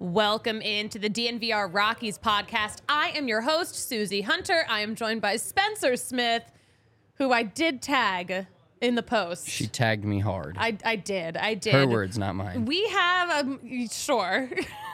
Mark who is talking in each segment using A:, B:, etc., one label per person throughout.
A: Welcome into the DNVR Rockies podcast. I am your host, Susie Hunter. I am joined by Spencer Smith, who I did tag in the post.
B: She tagged me hard.
A: I did.
B: Her words, not mine.
A: We have sure.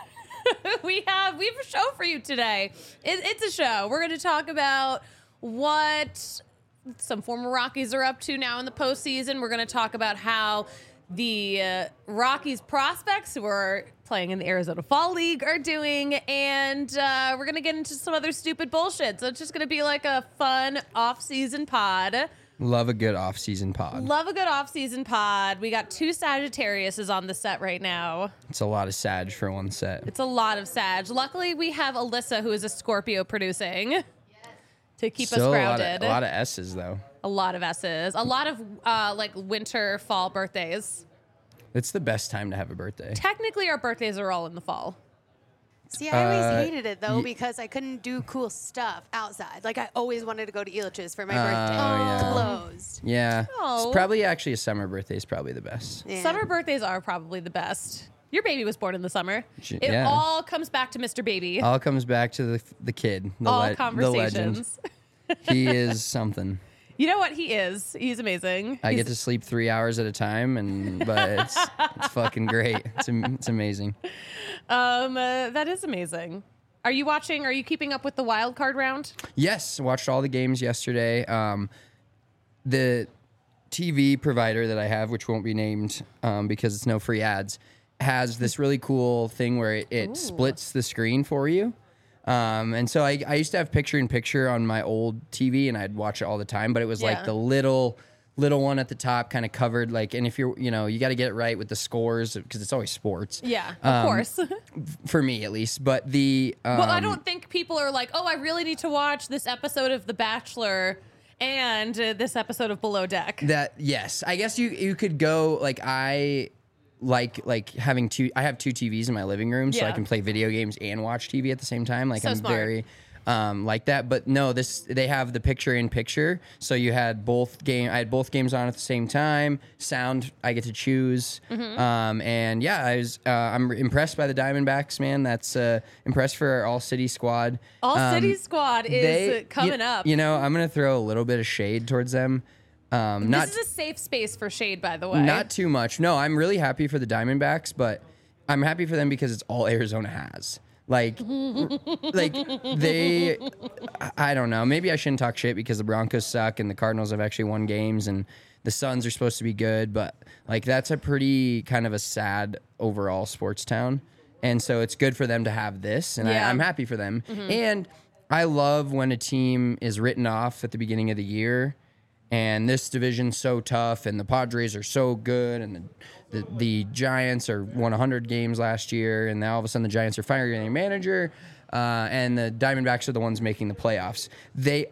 A: we have a show for you today. It's a show. We're going to talk about what some former Rockies are up to now in the postseason. We're going to talk about how the Rockies prospects who are playing in the Arizona Fall League are doing, and we're going to get into some other stupid bullshit. So it's just going to be like a fun off-season pod.
B: Love a good off-season pod.
A: Love a good off-season pod. We got two Sagittariuses on the set right now.
B: It's a lot of Sag for one set.
A: It's a lot of Sag. Luckily, we have Alyssa, who is a Scorpio producing, to keep us grounded.
B: A lot of S's, though.
A: A lot of S's. A lot of like winter, fall birthdays.
B: It's the best time to have a birthday.
A: Technically, our birthdays are all in the fall.
C: See, I always hated it, though, because I couldn't do cool stuff outside. Like, I always wanted to go to Elitch's for my birthday.
B: Yeah.
C: Closed.
B: Yeah.
A: Oh.
B: It's probably actually a summer birthday is probably the best.
C: Yeah.
A: Summer birthdays are probably the best. Your baby was born in the summer. It
B: Yeah.
A: all comes back to Mr. Baby.
B: All comes back to the kid, the
A: all
B: legend.
A: conversations.
B: He is something.
A: You know what? He is. He's amazing.
B: I get to sleep 3 hours at a time, but it's fucking great. It's amazing.
A: That is amazing. Are you watching? Are you keeping up with the wild card round?
B: Yes, watched all the games yesterday. The TV provider that I have, which won't be named because it's no free ads, has this really cool thing where it splits the screen for you. And so I used to have picture-in-picture on my old TV, and I'd watch it all the time, but it was like the little one at the top kind of covered, like, and if you're, you got to get it right with the scores because it's always sports.
A: Yeah, of course.
B: For me, at least. But
A: well, I don't think people are like, oh, I really need to watch this episode of The Bachelor and this episode of Below Deck.
B: Yes. I guess you could go, like, I like having I have two TVs in my living room, so I can play video games and watch TV at the same time. Like,
A: so
B: I'm
A: smart.
B: very like that. But no, they have the picture in picture, so I had both games on at the same time. Sound I get to choose. And yeah, I'm impressed by the Diamondbacks, man. That's impressed for our All City squad.
A: All City squad is coming up.
B: I'm gonna throw a little bit of shade towards them.
A: This is a safe space for shade, by the way.
B: Not too much. No, I'm really happy for the Diamondbacks, but I'm happy for them because it's all Arizona has. Like they, I don't know. Maybe I shouldn't talk shit because the Broncos suck and the Cardinals have actually won games and the Suns are supposed to be good, but like that's a pretty kind of a sad overall sports town. And so it's good for them to have this, and I'm happy for them. And I love when a team is written off at the beginning of the year. And this division's so tough, and the Padres are so good, and the Giants are won 100 games last year, and now all of a sudden the Giants are firing their manager, and the Diamondbacks are the ones making the playoffs. They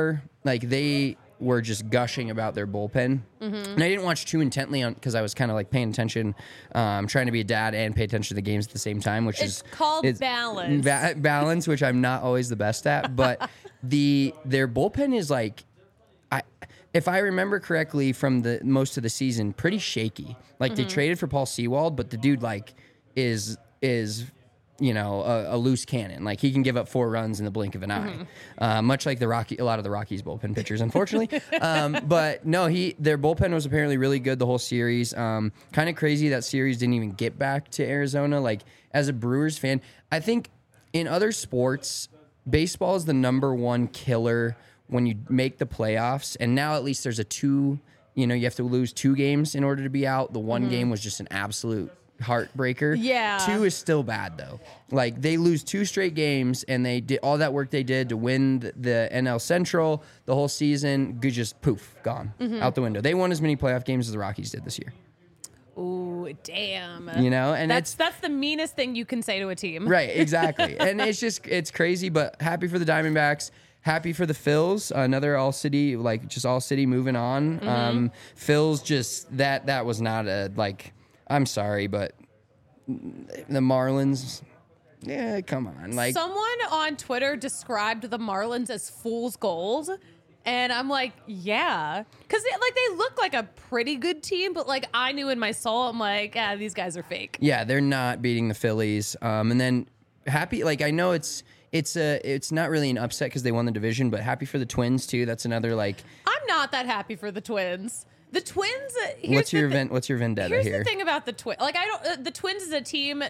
B: were just gushing about their bullpen, and I didn't watch too intently because I was kind of like paying attention, trying to be a dad and pay attention to the games at the same time, which
A: it's called balance.
B: Balance, which I'm not always the best at, but their bullpen is like. If I remember correctly from the most of the season, pretty shaky. Like they traded for Paul Sewald, but the dude like is a loose cannon. Like he can give up 4 runs in the blink of an eye, much like a lot of the Rockies bullpen pitchers, unfortunately. But no, their bullpen was apparently really good the whole series. Kind of crazy that series didn't even get back to Arizona. Like as a Brewers fan, I think in other sports, baseball is the number one killer when you make the playoffs, and now at least there's you have to lose 2 games in order to be out. The one game was just an absolute heartbreaker.
A: Yeah.
B: 2 is still bad, though. Like, they lose 2 straight games, and they did all that work they did to win the NL Central the whole season, just poof, gone, out the window. They won as many playoff games as the Rockies did this year.
A: Ooh, damn.
B: And
A: that's the meanest thing you can say to a team.
B: Right, exactly. And it's crazy, but happy for the Diamondbacks. Happy for the Phils, another all city moving on. Phils just that was not I'm sorry, but the Marlins, yeah, come on. Like
A: someone on Twitter described the Marlins as fool's gold, And I'm like, yeah. Because they look like a pretty good team, but like I knew in my soul, I'm like, these guys are fake.
B: Yeah, they're not beating the Phillies. And then happy, like I know it's not really an upset because they won the division, but happy for the Twins too. That's another like.
A: I'm not that happy for the Twins. The Twins.
B: What's your vendetta
A: here's
B: here?
A: The thing about the Twins. Like I don't. The Twins is a team.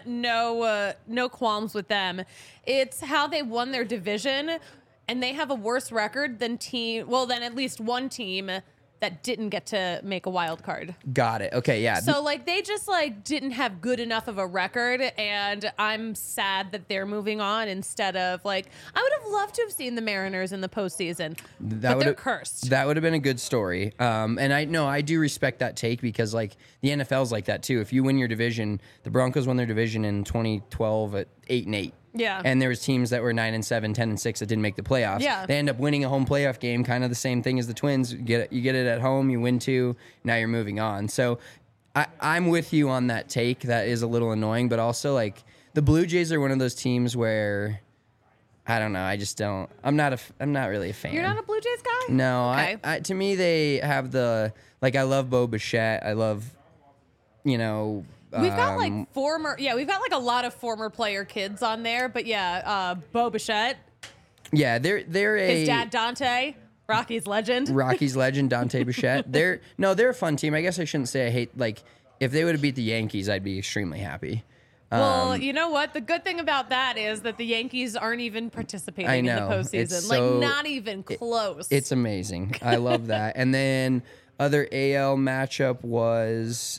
A: No qualms with them. It's how they won their division, and they have a worse record than than at least one team that didn't get to make a wild card.
B: Got it. Okay, yeah.
A: So like they just like didn't have good enough of a record, and I'm sad that they're moving on instead of like I would have loved to have seen the Mariners in the postseason, but they're cursed.
B: That would have been a good story. And I do respect that take because like the NFL's like that too. If you win your division, the Broncos won their division in 2012 at 8-8.
A: Yeah.
B: And there was teams that were 9-7, 10-6 that didn't make the playoffs.
A: Yeah.
B: They end up winning a home playoff game, kind of the same thing as the Twins. You get it at home, you win 2, now you're moving on. So I'm with you on that take. That is a little annoying, but also like the Blue Jays are one of those teams where I don't know. I just don't. I'm not really a fan.
A: You're not a Blue Jays guy?
B: No.
A: Okay.
B: I to me they have I love Bo Bichette. I love,
A: We've got like we've got like a lot of former player kids on there, but Bo Bichette.
B: Yeah, they're
A: his dad Dante, Rocky's legend.
B: Dante Bichette. They're a fun team. I guess I shouldn't say I hate if they would have beat the Yankees, I'd be extremely happy.
A: Well, you know what? The good thing about that is that the Yankees aren't even participating in the postseason. Like not even close.
B: It's amazing. I love that. And then other AL matchup was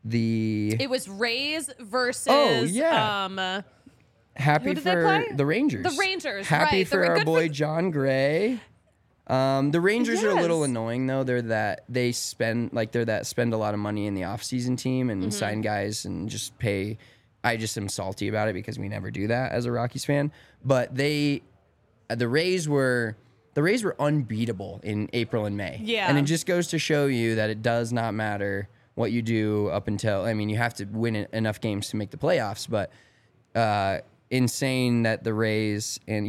A: It was Rays versus.
B: Oh yeah. Happy for the Rangers.
A: The Rangers.
B: Happy
A: right.
B: for our boy John Gray. The Rangers are a little annoying though. They're that spend a lot of money in the offseason team and sign guys and just pay. I just am salty about it because we never do that as a Rockies fan. But the Rays were unbeatable in April and May.
A: Yeah.
B: And it just goes to show you that it does not matter what you do up until, you have to win enough games to make the playoffs, but insane that the Rays, and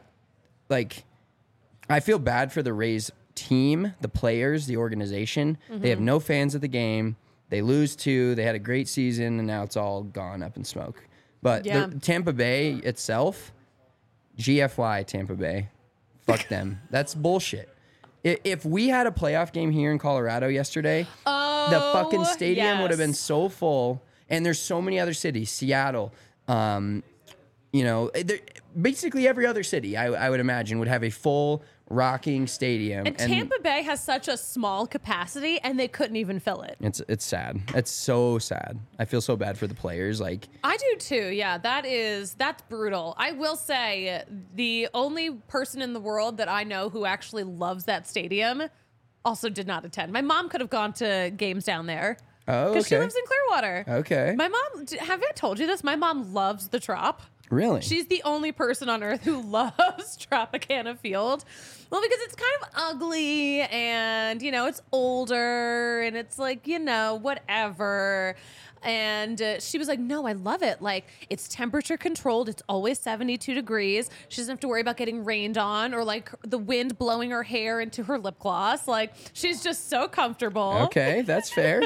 B: I feel bad for the Rays team, the players, the organization. They have no fans at the game. They lose 2. They had a great season, and now it's all gone up in smoke. But the Tampa Bay itself, GFY Tampa Bay, fuck them. That's bullshit. If we had a playoff game here in Colorado yesterday, the fucking stadium would have been so full. And there's so many other cities, Seattle, basically every other city, I would imagine, would have a full rocking stadium.
A: And Tampa Bay has such a small capacity, and they couldn't even fill it.
B: It's sad. It's so sad. I feel so bad for the players. I
A: do too. Yeah, that's brutal. I will say the only person in the world that I know who actually loves that stadium also did not attend. My mom could have gone to games down there.
B: Oh, okay.
A: Because she lives in Clearwater.
B: Okay.
A: My mom, have I told you this? My mom loves the Trop.
B: Really?
A: She's the only person on earth who loves Tropicana Field. Well, because it's kind of ugly and, it's older and it's like, whatever. And she was like, no, I love it. Like, it's temperature controlled. It's always 72 degrees. She doesn't have to worry about getting rained on or like the wind blowing her hair into her lip gloss. Like, she's just so comfortable.
B: Okay, that's fair.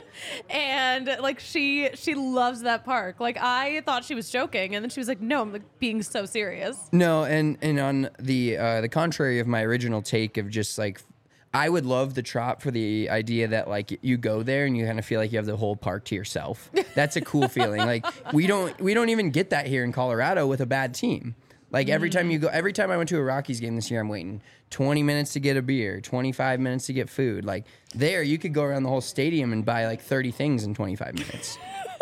A: And like, she loves that park. Like, I thought she was joking. And then she was like, no, I'm like being so serious.
B: No, and on the contrary of my original take of just like, I would love the Trop for the idea that like you go there and you kind of feel like you have the whole park to yourself. That's a cool feeling. Like we don't even get that here in Colorado with a bad team. Like every time I went to a Rockies game this year, I'm waiting 20 minutes to get a beer, 25 minutes to get food. Like there, you could go around the whole stadium and buy like 30 things in 25 minutes.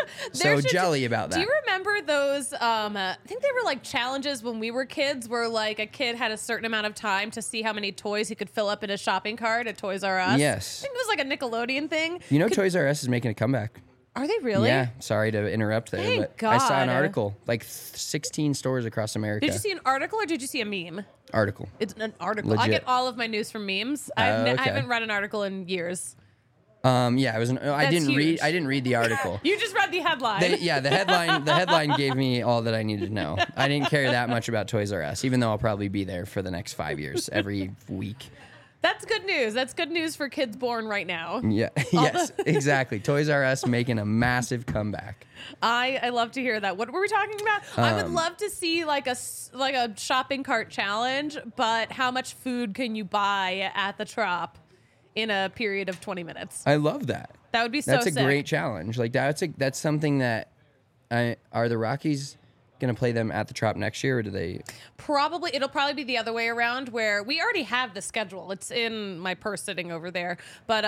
B: So jelly about that.
A: Do you remember those? I think they were like challenges when we were kids, where like a kid had a certain amount of time to see how many toys he could fill up in a shopping cart at Toys R Us.
B: Yes,
A: I think it was like a Nickelodeon thing.
B: Toys R Us is making a comeback.
A: Are they really?
B: Yeah. Sorry to interrupt there,
A: Thank
B: but
A: God.
B: I saw an article like 16 stores across America.
A: Did you see an article or did you see a meme?
B: Article.
A: It's an article.
B: Legit.
A: I get all of my news from memes. I haven't read an article in years.
B: Yeah, it was. I didn't read the article.
A: You just read the headline.
B: The headline. The headline gave me all that I needed to know. I didn't care that much about Toys R Us, even though I'll probably be there for the next 5 years, every week.
A: That's good news. That's good news for kids born right now.
B: Yeah. Yes, exactly. Toys R Us making a massive comeback.
A: I love to hear that. What were we talking about? I would love to see like a shopping cart challenge, but how much food can you buy at the Trop in a period of 20 minutes?
B: I love that.
A: That would be so
B: That's a
A: sick.
B: great challenge. Like that's something that are the Rockies going to play them at the Trop next year, or do they?
A: It'll probably be the other way around, where we already have the schedule. It's in my purse sitting over there. But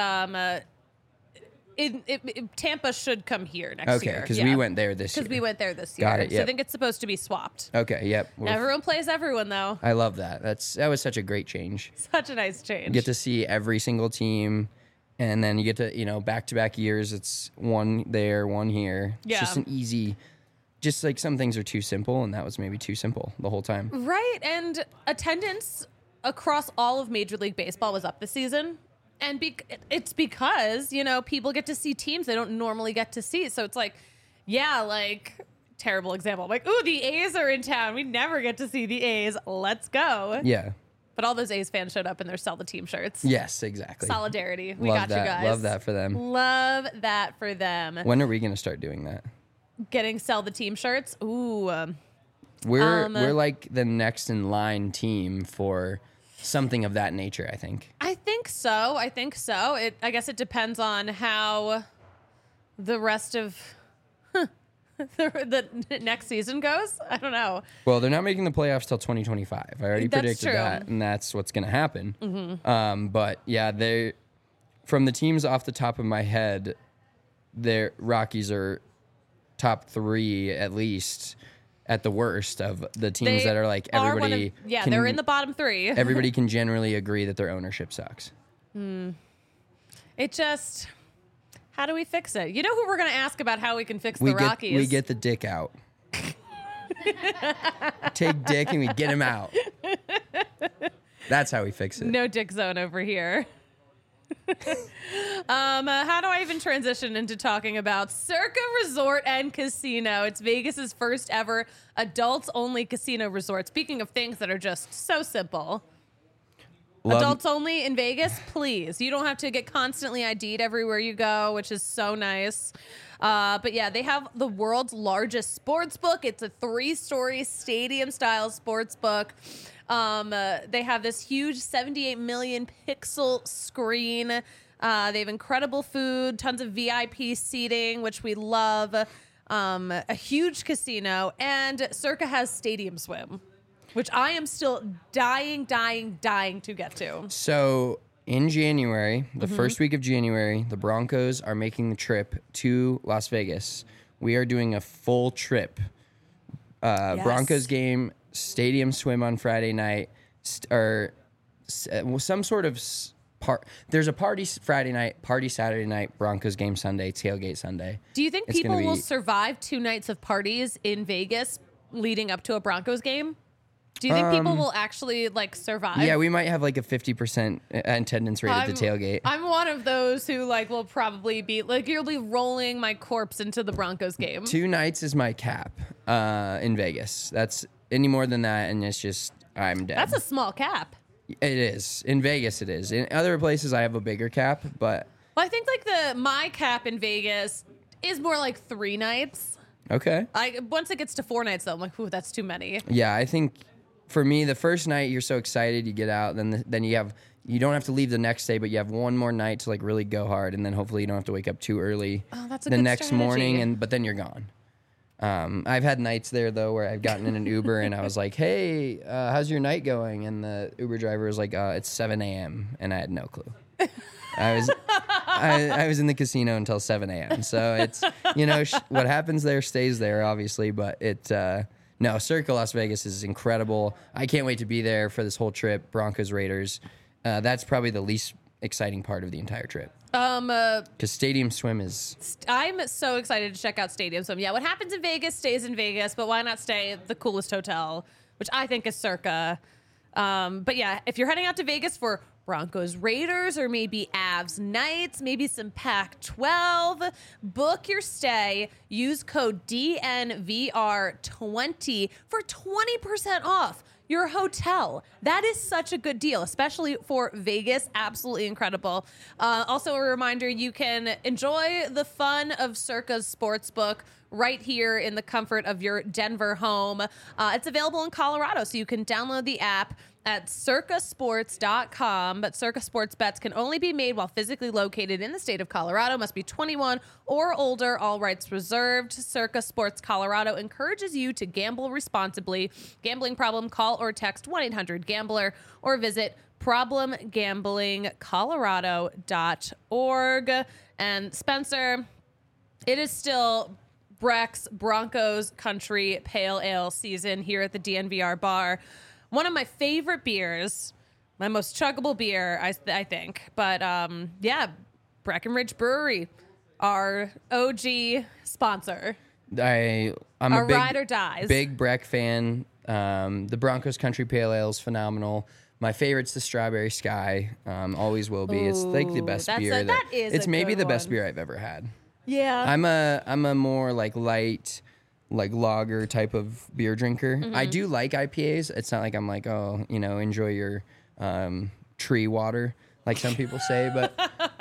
A: Tampa should come here next year.
B: Okay, because we went there this year.
A: Because we went there this year.
B: Got it,
A: So I
B: yep.
A: think it's supposed to be swapped.
B: Okay, yep.
A: Everyone plays everyone, though.
B: I love that. That was such a great change.
A: Such a nice change.
B: You get to see every single team, and then you get to, back-to-back years, it's one there, one here. It's
A: Yeah.
B: just an easy, just like some things are too simple, and that was maybe too simple the whole time.
A: Right, and attendance across all of Major League Baseball was up this season. And it's because, people get to see teams they don't normally get to see. So it's like, terrible example. Like, ooh, the A's are in town. We never get to see the A's. Let's go.
B: Yeah.
A: But all those A's fans showed up in their Sell the Team shirts.
B: Yes, exactly.
A: Solidarity. We
B: Love
A: got
B: that.
A: you guys.
B: Love that for them.
A: Love that for them.
B: When are we going to start doing that?
A: Getting Sell the Team shirts. Ooh.
B: We're like the next in line team for something of that nature, I think.
A: I think so. I guess it depends on how the rest of the next season goes. I don't know.
B: Well, they're not making the playoffs till 2025. I already
A: That's
B: predicted
A: true.
B: that, and that's what's going to happen. Mm-hmm. But yeah, from the teams off the top of my head, their Rockies are top 3 at least. At the worst of the teams that are like everybody.
A: They're in the bottom 3.
B: Everybody can generally agree that their ownership sucks.
A: It just, how do we fix it? You know who we're going to ask about how we can fix the Rockies?
B: We get the Dick out. Take Dick and we get him out. That's how we fix it.
A: No Dick zone over here. How do I even transition into talking about Circa Resort and Casino? It's Vegas's first ever adults only casino resort. Speaking of things that are just so simple. Adults only in Vegas, please. You don't have to get constantly ID'd everywhere you go, which is so nice. But yeah, they have the world's largest sports book. It's a 3-story stadium-style sports book. They have this huge 78 million pixel screen. They have incredible food, tons of VIP seating, which we love. A huge casino, and Circa has Stadium Swim, which I am still dying to get to.
B: So in January, the first week of January, the Broncos are making the trip to Las Vegas. We are doing a full trip.
A: Yes.
B: Broncos game, Stadium Swim on Friday night, or some sort of there's a party Friday night, party Saturday night, Broncos game Sunday, tailgate Sunday.
A: Do you think people will survive 2 nights of parties in Vegas leading up to a Broncos game? Do you think people will actually survive?
B: Yeah, we might have like a 50% attendance rate at the tailgate.
A: I'm one of those who will probably be you'll be rolling my corpse into the Broncos game.
B: 2 nights is my cap in Vegas. That's any more than that, and it's just I'm dead.
A: That's a small cap.
B: It is. In Vegas, it is. In other places, I have a bigger cap, but...
A: Well, I think my cap in Vegas is more like 3 nights.
B: Okay.
A: Once it gets to 4 nights, though, I'm like, ooh, that's too many.
B: Yeah, I think for me, the first night, you're so excited, you get out, then you don't have to leave the next day, but you have one more night to really go hard, and then hopefully you don't have to wake up too early
A: that's a
B: the
A: good
B: next
A: strategy.
B: morning, but then you're gone. I've had nights there, though, where I've gotten in an Uber and I was like, hey, how's your night going? And the Uber driver was like, it's 7 a.m. And I had no clue. I was in the casino until 7 a.m. So it's, what happens there stays there, obviously. But no, Circa Las Vegas is incredible. I can't wait to be there for this whole trip, Broncos Raiders. That's probably the least exciting part of the entire trip. Because Stadium Swim is...
A: I'm so excited to check out Stadium Swim. Yeah, what happens in Vegas stays in Vegas, but why not stay at the coolest hotel, which I think is Circa. But yeah, if you're heading out to Vegas for Broncos Raiders or maybe Avs Knights, maybe some Pac-12, book your stay. Use code DNVR20 for 20% off your hotel. That is such a good deal, especially for Vegas. Absolutely incredible. Also, a reminder, you can enjoy the fun of Circa's Sportsbook right here in the comfort of your Denver home. It's available in Colorado, so you can download the app at circasports.com, but Circa Sports bets can only be made while physically located in the state of Colorado, must be 21 or older, all rights reserved. Circa Sports Colorado encourages you to gamble responsibly. Gambling problem, call or text 1-800-GAMBLER or visit problemgamblingcolorado.org. And Spencer, it is still Breck's Broncos Country Pale Ale season here at the DNVR bar. One of my favorite beers, my most chuggable beer, I think. But yeah, Breckenridge Brewery, our OG sponsor.
B: I'm
A: our
B: a big,
A: ride or dies.
B: Big Breck fan. The Broncos Country Pale Ale is phenomenal. My favorite's the Strawberry Sky. Always will be. It's like the best beer. It's maybe the best beer I've ever had.
A: Yeah.
B: I'm a more like light, like lager type of beer drinker. I do like IPAs. It's not like I'm like, oh, enjoy your tree water, like some people say. But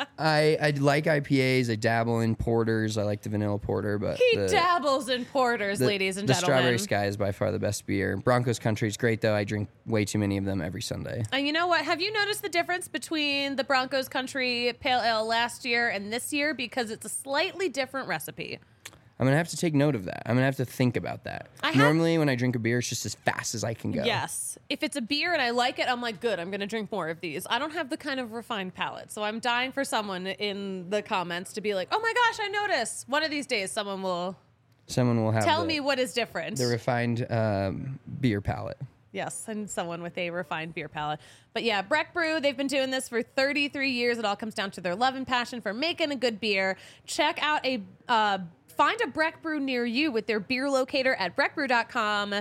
B: I like IPAs. I dabble in porters. I like the vanilla porter. But
A: he dabbles in porters, ladies and
B: the
A: gentlemen.
B: Strawberry Sky is by far the best beer. Broncos Country is great, though. I drink way too many of them every Sunday.
A: And you know what? Have you noticed the difference between the Broncos Country Pale Ale last year and this year? Because it's a slightly different recipe.
B: I'm going to have to take note of that. I'm going to have to think about that. Normally, when I drink a beer, it's just as fast as I can go.
A: Yes. If it's a beer and I like it, I'm like, good, I'm going to drink more of these. I don't have the kind of refined palate. So I'm dying for someone in the comments to be like, oh my gosh, I noticed. One of these days, someone will
B: have
A: tell me what is different.
B: The refined beer palate.
A: Yes, and someone with a refined beer palate. But yeah, Breck Brew, they've been doing this for 33 years. It all comes down to their love and passion for making a good beer. Check out find a Breck Brew near you with their beer locator at breckbrew.com.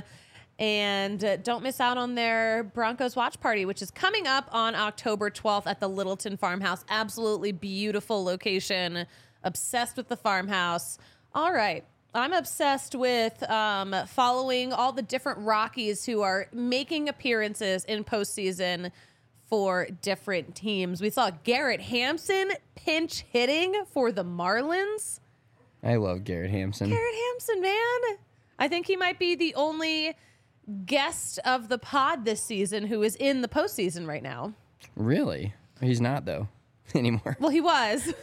A: And don't miss out on their Broncos watch party, which is coming up on October 12th at the Littleton Farmhouse. Absolutely beautiful location. Obsessed with the farmhouse. All right. I'm obsessed with following all the different Rockies who are making appearances in postseason for different teams. We saw Garrett Hampson pinch hitting for the Marlins.
B: I love Garrett Hampson.
A: Garrett Hampson, man. I think he might be the only guest of the pod this season who is in the postseason right now.
B: Really? He's not, though, anymore.
A: Well, he was.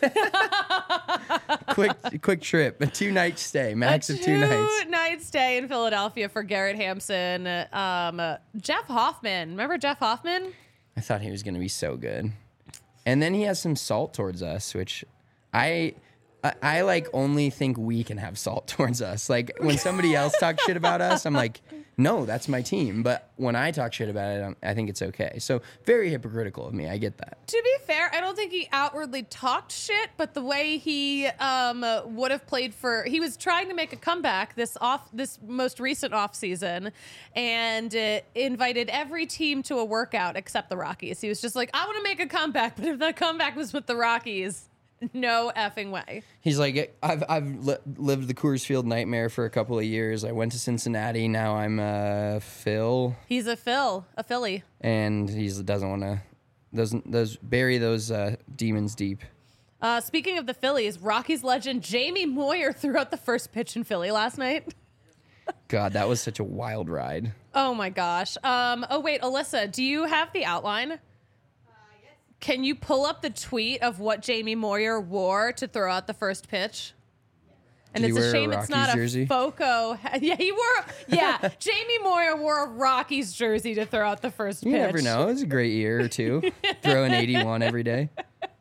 B: quick trip, a 2-night stay, max of 2 nights.
A: 2-night stay in Philadelphia for Garrett Hampson. Jeff Hoffman. Remember Jeff Hoffman?
B: I thought he was going to be so good. And then he has some salt towards us, which I like only think we can have salt towards us. Like when somebody else talks shit about us, I'm like, no, that's my team. But when I talk shit about it, I think it's okay. So very hypocritical of me. I get that.
A: To be fair, I don't think he outwardly talked shit, but the way he would have played he was trying to make a comeback this most recent off season, and invited every team to a workout except the Rockies. He was just like, I want to make a comeback, but if that comeback was with the Rockies, no effing way.
B: He's like, I've lived the Coors Field nightmare for a couple of years. I went to Cincinnati. Now I'm a Phil.
A: He's a Philly.
B: And he doesn't want to bury those demons deep.
A: Speaking of the Phillies, Rockies legend Jamie Moyer threw out the first pitch in Philly last night.
B: God, that was such a wild ride.
A: Oh my gosh. Oh wait, Alyssa, do you have the outline? Can you pull up the tweet of what Jamie Moyer wore to throw out the first pitch? And
B: Did
A: it's
B: he wear
A: a shame
B: a
A: it's not
B: Rockies jersey?
A: a FOCO. Yeah, he wore. Yeah, Jamie Moyer wore a Rockies jersey to throw out the first pitch.
B: You never know. It was a great year or two. Throwing 81 every day.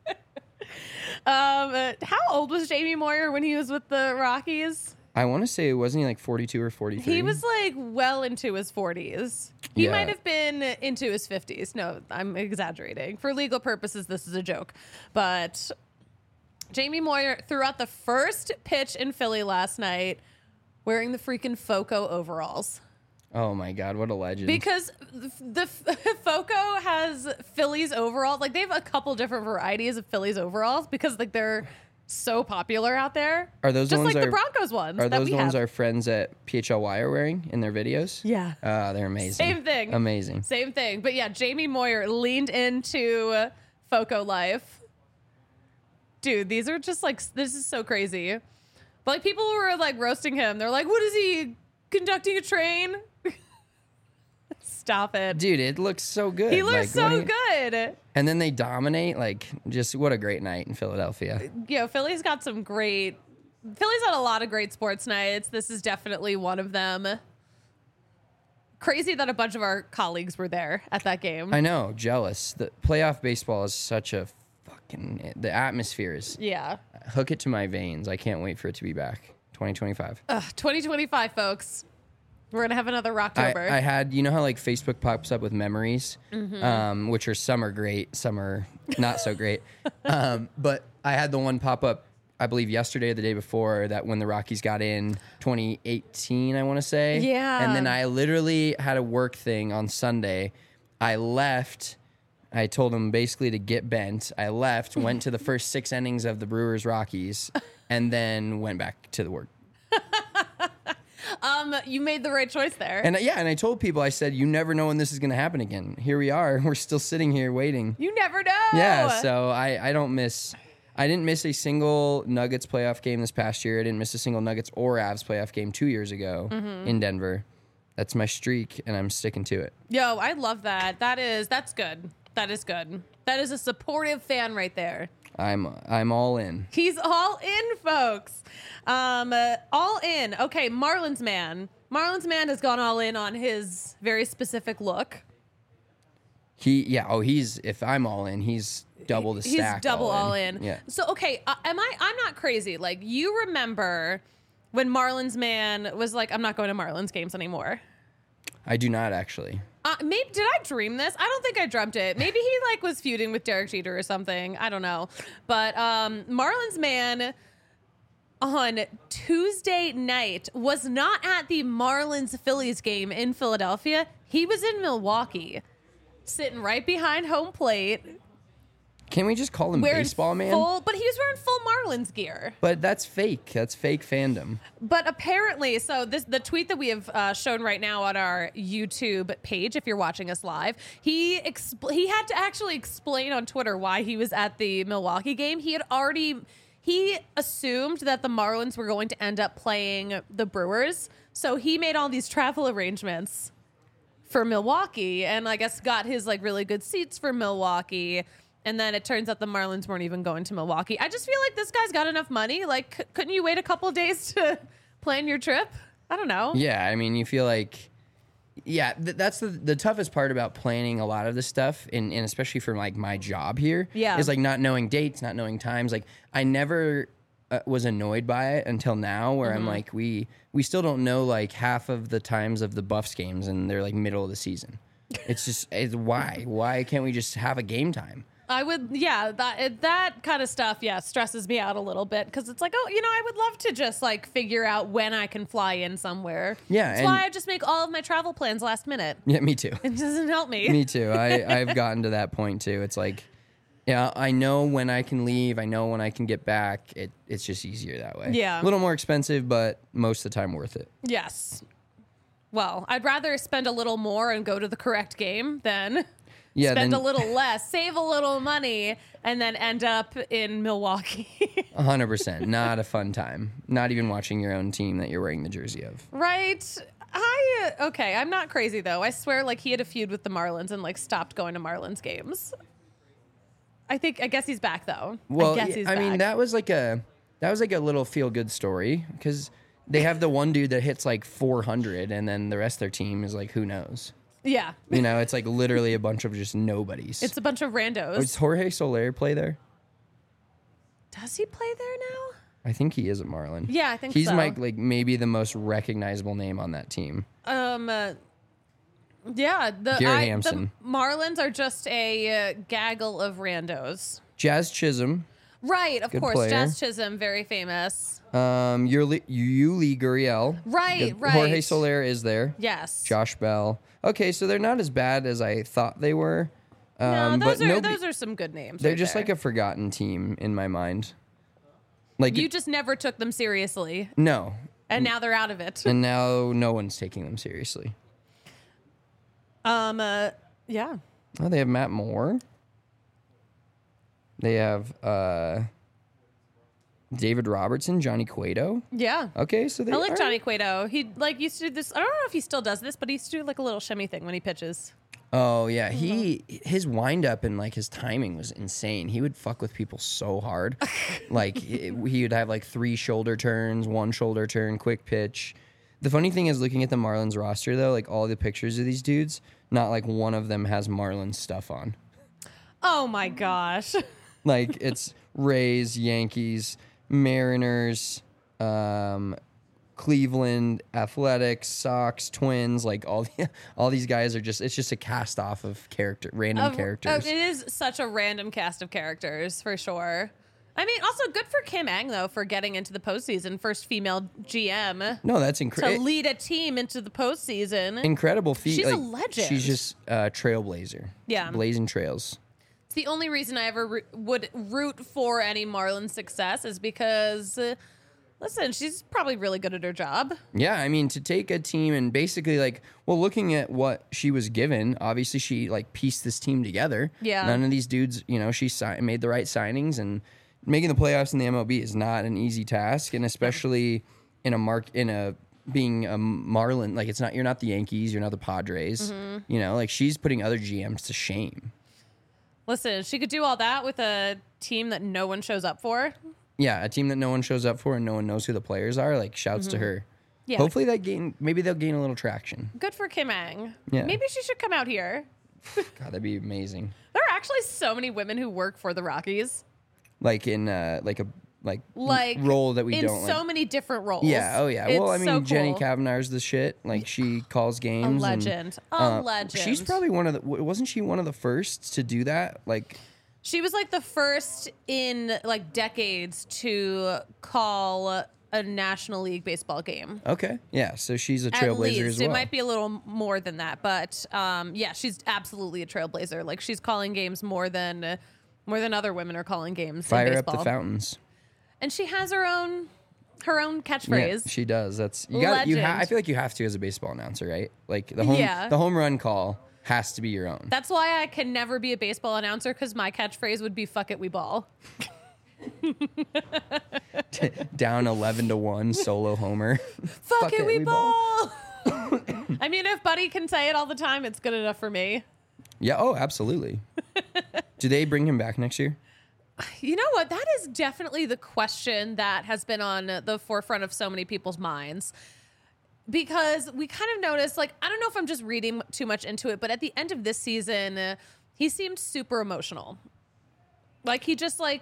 A: How old was Jamie Moyer when he was with the Rockies?
B: I want to say, wasn't he like 42 or 43?
A: He was like well into his 40s. He
B: Yeah.
A: might have been into his 50s. No, I'm exaggerating. For legal purposes, this is a joke. But Jamie Moyer threw out the first pitch in Philly last night wearing the freaking FOCO overalls.
B: Oh my God, what a legend.
A: Because the FOCO has Phillies overalls. Like they have a couple different varieties of Phillies overalls because like they're so popular out there.
B: Are those
A: just
B: ones
A: like the
B: our-
A: Broncos ones?
B: Are
A: that
B: those
A: we
B: the ones
A: have.
B: our friends at PHLY are wearing in their videos?
A: Yeah.
B: They're amazing.
A: Same thing.
B: Amazing.
A: Same thing. But yeah, Jamie Moyer leaned into Foco Life. Dude, these are just like, this is so crazy. But like people were like roasting him. They're like, what is he conducting a train? Stop it.
B: Dude, it looks so good.
A: He looks
B: Like,
A: so good.
B: And then they dominate. Like, just what a great night in Philadelphia.
A: You know, Philly's had a lot of great sports nights. This is definitely one of them. Crazy that a bunch of our colleagues were there at that game.
B: I know, jealous. The playoff baseball is such a fucking. The atmosphere is.
A: Yeah.
B: Hook it to my veins. I can't wait for it to be back. 2025.
A: 2025, folks. We're going to have another Rocktober.
B: I had, you know how like Facebook pops up with memories, which are some are great, some are not so great. But I had the one pop up, I believe yesterday or the day before, that when the Rockies got in 2018, I want to say.
A: Yeah.
B: And then I literally had a work thing on Sunday. I left. I told them basically to get bent. I left, went to the first 6 innings of the Brewers Rockies, and then went back to the work.
A: You made the right choice there.
B: And and I told people, I said, you never know when this is going to happen again. Here we are. We're still sitting here waiting.
A: You never know.
B: Yeah, so I didn't miss a single Nuggets playoff game this past year. I didn't miss a single Nuggets or Avs playoff game 2 years ago in Denver. That's my streak, and I'm sticking to it.
A: Yo, I love that. That's good. That is good. That is a supportive fan right there.
B: I'm all in.
A: He's all in, folks. All in. Okay, Marlins man. Marlins man has gone all in on his very specific look.
B: If I'm all in, he's double the stack.
A: He's double all in.
B: Yeah.
A: So okay, I'm not crazy. Like, you remember when Marlins man was like, I'm not going to Marlins games anymore.
B: I do not actually.
A: Maybe did I dream this? I don't think I dreamt it. Maybe he like was feuding with Derek Jeter or something. I don't know. But Marlins man on Tuesday night was not at the Marlins Phillies game in Philadelphia. He was in Milwaukee, sitting right behind home plate.
B: Can we just call him
A: Wearing
B: baseball man?
A: But he was wearing full Marlins gear.
B: But that's fake. That's fake fandom.
A: But apparently, so the tweet that we have shown right now on our YouTube page, if you're watching us live, he had to actually explain on Twitter why he was at the Milwaukee game. He assumed that the Marlins were going to end up playing the Brewers, so he made all these travel arrangements for Milwaukee, and I guess got his like really good seats for Milwaukee. And then it turns out the Marlins weren't even going to Milwaukee. I just feel like this guy's got enough money. Like, couldn't you wait a couple days to plan your trip? I don't know.
B: Yeah, I mean, you feel like, that's the toughest part about planning a lot of this stuff, and especially for like my job here, is like not knowing dates, not knowing times. Like, I never was annoyed by it until now, where I'm like, we still don't know like half of the times of the Buffs games, and they're like middle of the season. It's why can't we just have a game time?
A: I would, that kind of stuff, stresses me out a little bit, because it's like, I would love to just like figure out when I can fly in somewhere.
B: Yeah,
A: that's why I just make all of my travel plans last minute.
B: Yeah, me too.
A: It doesn't help me.
B: Me too. I've gotten to that point too. It's like, I know when I can leave. I know when I can get back. It's just easier that way.
A: Yeah.
B: A little more expensive, but most of the time worth it.
A: Yes. Well, I'd rather spend a little more and go to the correct game than spend a little less, save a little money, and then end up in Milwaukee.
B: 100%. Not a fun time. Not even watching your own team that you're wearing the jersey of.
A: Right. I'm not crazy though. I swear, like, he had a feud with the Marlins and like stopped going to Marlins games. I guess he's back though.
B: Well,
A: I guess he's back.
B: mean, that was like a little feel good story, because they have the one dude that hits like 400, and then the rest of their team is like, who knows?
A: Yeah.
B: It's like literally a bunch of just nobodies.
A: It's a bunch of randos.
B: Does Jorge Soler play there?
A: Does he play there now?
B: I think he is a Marlin.
A: Yeah, I think
B: he's
A: so.
B: like maybe the most recognizable name on that team.
A: Yeah,
B: Gary Hampson.
A: The Marlins are just a gaggle of randos.
B: Jazz Chisholm.
A: Right, of course.
B: player.
A: Jazz Chisholm, very famous.
B: Yuli Gurriel.
A: Right.
B: Jorge Soler is there.
A: Yes.
B: Josh Bell. Okay, so they're not as bad as I thought they were.
A: No,
B: but
A: those are some good names.
B: They're
A: right
B: just
A: there.
B: like a forgotten team in my mind. Like
A: You just never took them seriously,
B: no,
A: and now they're out of it.
B: and now no one's taking them seriously.
A: Yeah.
B: Oh, they have Matt Moore. They have David Robertson, Johnny Cueto.
A: Yeah.
B: Okay, so they
A: I like
B: all
A: Johnny
B: right.
A: Cueto. He used to do this. I don't know if he still does this, but he used to do like a little shimmy thing when he pitches.
B: Oh yeah, his wind up and like his timing was insane. He would fuck with people so hard. Like he would have like 3 shoulder turns, 1 shoulder turn, quick pitch. The funny thing is looking at the Marlins roster though, like all the pictures of these dudes, not like one of them has Marlins stuff on.
A: Oh my gosh.
B: Like it's Rays, Yankees, Mariners, Cleveland, Athletics, Sox, Twins, like all these guys are just, it's just a cast off of random characters.
A: It is such a random cast of characters for sure. I mean, also good for Kim Ng though for getting into the postseason, first female GM
B: No, that's
A: to
B: incredible.
A: lead a team into the postseason.
B: Incredible feat.
A: She's a
B: like,
A: legend.
B: She's just a trailblazer.
A: Yeah.
B: Blazing trails.
A: It's the only reason I ever would root for any Marlins success is because, listen, she's probably really good at her job.
B: Yeah, I mean, to take a team and basically like, well, looking at what she was given, obviously she like pieced this team together.
A: Yeah.
B: None of these dudes, you know, she made the right signings, and making the playoffs in the MLB is not an easy task, and especially being a Marlin, like you're not the Yankees, you're not the Padres.
A: Mm-hmm.
B: You know, like she's putting other GMs to shame.
A: Listen, she could do all that with a team that no one shows up for.
B: Yeah, a team that no one shows up for and no one knows who the players are, like shouts to her.
A: Yeah.
B: Hopefully maybe they'll gain a little traction.
A: Good for Kim Ng.
B: Yeah.
A: Maybe she should come out here.
B: God, that'd be amazing.
A: There are actually so many women who work for the Rockies.
B: Like in like role that we
A: in
B: don't
A: so
B: like.
A: many different roles.
B: Yeah, oh yeah.
A: It's
B: Well, I mean,
A: so
B: Jenny
A: cool.
B: Kavanaugh's the shit. Like she calls games.
A: legend.
B: And,
A: A legend.
B: She's probably wasn't she one of the first to do that? Like,
A: She was like the first in like decades to call a National League baseball game.
B: okay, yeah. So she's a
A: At
B: trailblazer
A: least
B: as well.
A: it might be a little more than that, but yeah, she's absolutely a trailblazer. Like she's calling games more than other women are calling games.
B: Fire
A: in
B: up
A: baseball.
B: the fountains.
A: And she has her own catchphrase.
B: Yeah, she does. That's you got.
A: Legend.
B: I feel like you have to as a baseball announcer, right? Like the home run call has to be your own.
A: That's why I can never be a baseball announcer because my catchphrase would be "fuck it, we ball."
B: Down 11-1 solo homer.
A: Fuck it, we ball. I mean, if Buddy can say it all the time, it's good enough for me.
B: Yeah. Oh, absolutely. Do they bring him back next year?
A: You know what? That is definitely the question that has been on the forefront of so many people's minds. Because we kind of noticed, like, I don't know if I'm just reading too much into it, but at the end of this season, he seemed super emotional. Like, he just, like,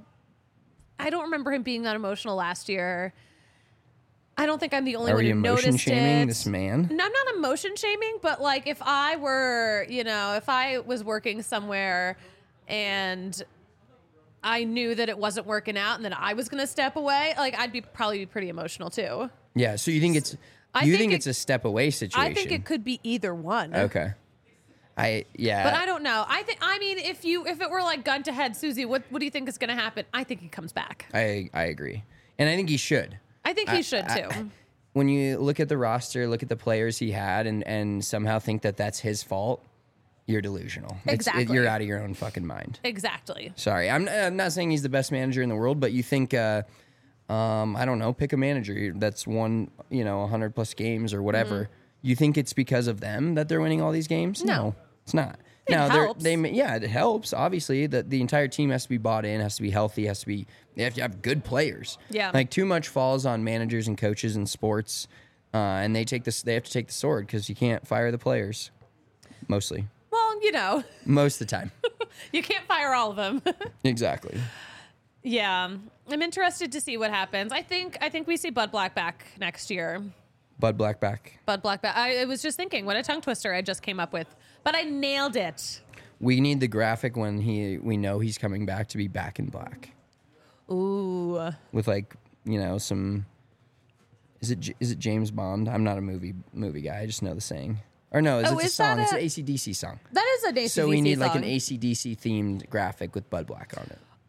A: I don't remember him being that emotional last year. I don't think I'm the only
B: Are
A: one
B: we
A: who noticed
B: emotion shaming
A: it.
B: this man?
A: No, I'm not emotion shaming, but, like, if I were, if I was working somewhere and I knew that it wasn't working out and that I was going to step away, like, I'd probably be pretty emotional, too.
B: Yeah. So you think it's it's a step away situation?
A: I think it could be either one.
B: Okay. But
A: But I don't know. I mean, if it were like gun to head, Susie, what do you think is going to happen? I think he comes back.
B: I agree, and I think he should.
A: I think he should too.
B: When you look at the roster, look at the players he had, and somehow think that that's his fault, you're delusional.
A: Exactly.
B: You're out of your own fucking mind.
A: Exactly.
B: Sorry, I'm not saying he's the best manager in the world, but you think, I don't know, pick a manager that's won 100 plus games or whatever.
A: Mm-hmm.
B: You think it's because of them that they're winning all these games?
A: No.
B: It's not.
A: It helps.
B: It helps. Obviously, that the entire team has to be bought in, has to be healthy, they have to have good players.
A: Yeah.
B: Like too much falls on managers and coaches in sports, and they have to take the sword because you can't fire the players. Mostly,
A: Well,
B: most of the time.
A: you can't fire all of them.
B: Exactly.
A: Yeah, I'm interested to see what happens. I think we see Bud Black back next year.
B: Bud Black back.
A: Bud Black back. I was just thinking, what a tongue twister I just came up with, but I nailed it.
B: We need the graphic when we know he's coming back to be back in black.
A: Ooh.
B: With some. Is it James Bond? I'm not a movie guy. I just know the saying. Or no, it's a
A: is
B: song.
A: that
B: It's an AC/DC song.
A: That is an AC/DC
B: So we need like
A: song.
B: an AC/DC themed graphic with Bud Black on it.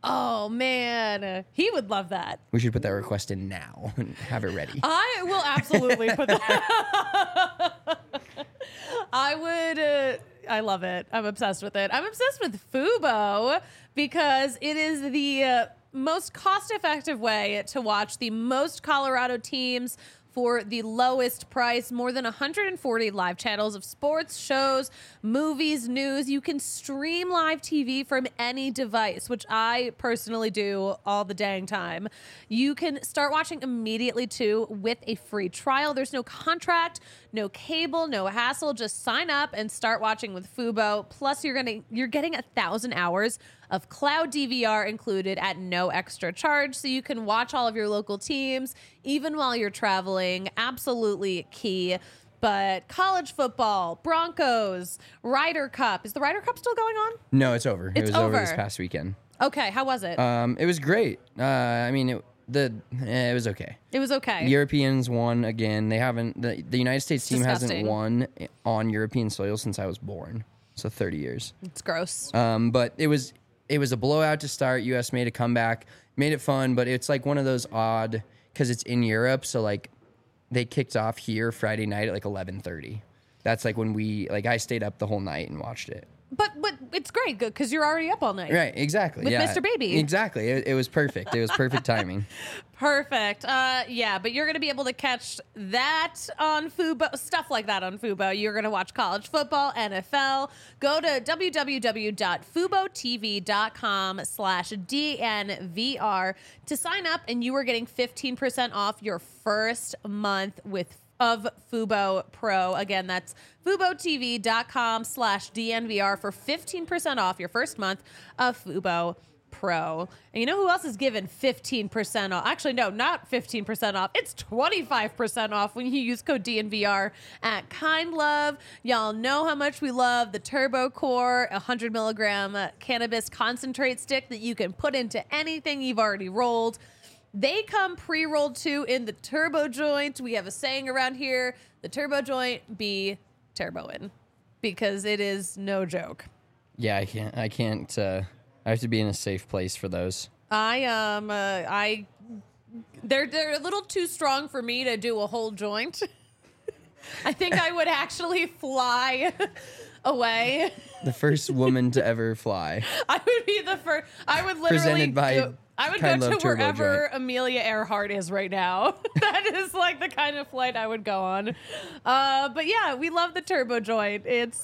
A: Oh man, he would love that.
B: We should put that request in now and have it ready.
A: I will absolutely put that. I would. I love it. I'm obsessed with it. I'm obsessed with Fubo because it is the most cost-effective way to watch the most Colorado teams for the lowest price. More than 140 live channels of sports, shows, movies, news. You can stream live TV from any device, which I personally do all the dang time. You can start watching immediately too with a free trial. There's no contract, no cable, no hassle. Just sign up and start watching with Fubo. Plus, you're getting 1,000 hours of cloud DVR included at no extra charge, so you can watch all of your local teams even while you're traveling. Absolutely key. But college football, Broncos, Ryder Cup. Is the Ryder Cup still going on?
B: No, it's over. It was over this
A: over.
B: past weekend.
A: Okay, how was it?
B: It was great. I mean, it was okay.
A: It was okay.
B: Europeans won again. They haven't. The United States team hasn't
A: Disgusting.
B: won on European soil since I was born. So 30 years.
A: It's gross.
B: But it was a blowout to start. U.S. made a comeback, made it fun, but it's like one of those odd because it's in Europe. So like they kicked off here Friday night at like 11:30. That's like when I stayed up the whole night and watched it.
A: But it's great because you're already up all night.
B: Right, exactly.
A: With
B: yeah.
A: Mr. Baby.
B: Exactly. It was perfect. It was perfect timing.
A: Perfect. Yeah, but you're going to be able to catch that on Fubo, stuff like that on Fubo. You're going to watch college football, NFL. Go to www.FuboTV.com/DNVR to sign up, and you are getting 15% off your first month of Fubo Pro. Again, that's FuboTV.com/DNVR for 15% off your first month of Fubo Pro. And you know who else is given 15% off? Actually, no, not 15% off. It's 25% off when you use code DNVR at Kind Love. Y'all know how much we love the Turbo Core, 100 milligram cannabis concentrate stick that you can put into anything you've already rolled. They come pre-rolled too in the turbo joint. We have a saying around here, the turbo joint be turboing, because it is no joke.
B: Yeah, I can't. I have to be in a safe place for those.
A: They're a little too strong for me to do a whole joint. I think I would actually fly away.
B: The first woman to ever fly.
A: I would be the first. I would literally
B: Presented by
A: I would
B: Kind
A: go
B: Love
A: to
B: Turbo
A: wherever
B: Joint.
A: Amelia Earhart is right now. That is like the kind of flight I would go on. But yeah, we love the Turbo Joint. It's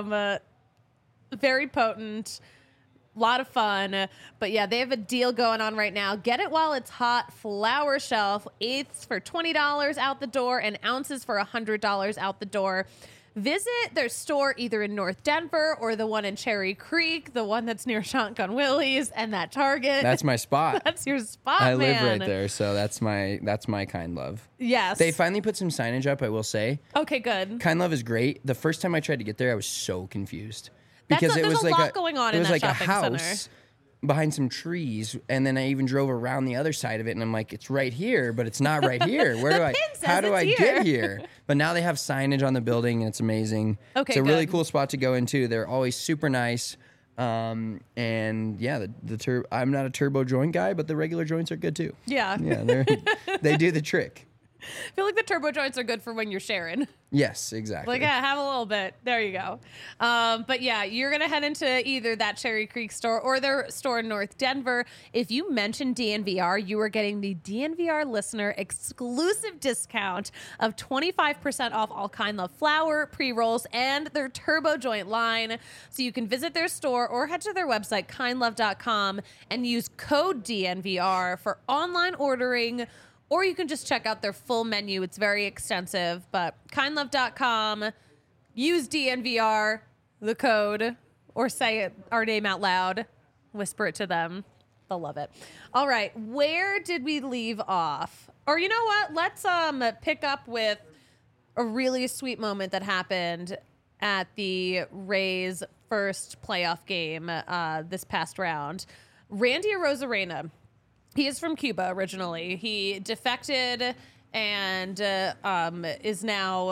A: very potent. A lot of fun. But yeah, they have a deal going on right now. Get it while it's hot. Flower Shelf, eighths for $20 out the door and ounces for $100 out the door. Visit their store either in North Denver or the one in Cherry Creek, the one that's near Shotgun Willie's and that Target.
B: That's my spot.
A: That's your spot,
B: I
A: man.
B: live right there, so that's my Kind Love.
A: Yes.
B: They finally put some signage up, I will say.
A: Okay, good.
B: Kind Love is great. The first time I tried to get there, I was so confused.
A: There's
B: it was
A: a
B: like
A: lot going on
B: it
A: in
B: was
A: that
B: like a
A: shopping
B: house
A: center.
B: behind some trees, and then I even drove around the other side of it, and I'm like, it's right here, but it's not right here. Where do I?
A: pin says
B: How do I
A: it's
B: get
A: here.
B: here? But now they have signage on the building, and it's amazing.
A: Okay,
B: it's a really
A: good.
B: cool spot to go into. They're always super nice. And yeah, I'm not a turbo joint guy, but the regular joints are good too.
A: Yeah.
B: Yeah, they do the trick.
A: I feel like the turbo joints are good for when you're sharing.
B: Yes, exactly.
A: Like, yeah, have a little bit. There you go. But yeah, you're going to head into either that Cherry Creek store or their store in North Denver. If you mention DNVR, you are getting the DNVR listener exclusive discount of 25% off all Kind Love flour, pre-rolls, and their Turbo Joint line. So you can visit their store or head to their website, kindlove.com, and use code DNVR for online ordering. Or you can just check out their full menu. It's very extensive, but kindlove.com, use DNVR, the code, or say our name out loud, whisper it to them. They'll love it. All right, where did we leave off? Or you know what? Let's pick up with a really sweet moment that happened at the Rays' first playoff game this past round. Randy Arozarena. He is from Cuba originally. He defected and is now.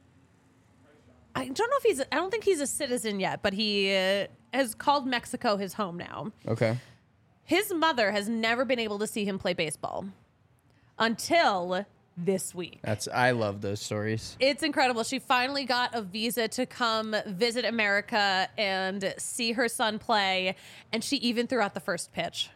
A: I don't know if I don't think he's a citizen yet, but he has called Mexico his home now.
B: Okay.
A: His mother has never been able to see him play baseball until this week.
B: I love those stories.
A: It's incredible. She finally got a visa to come visit America and see her son play, and she even threw out the first pitch.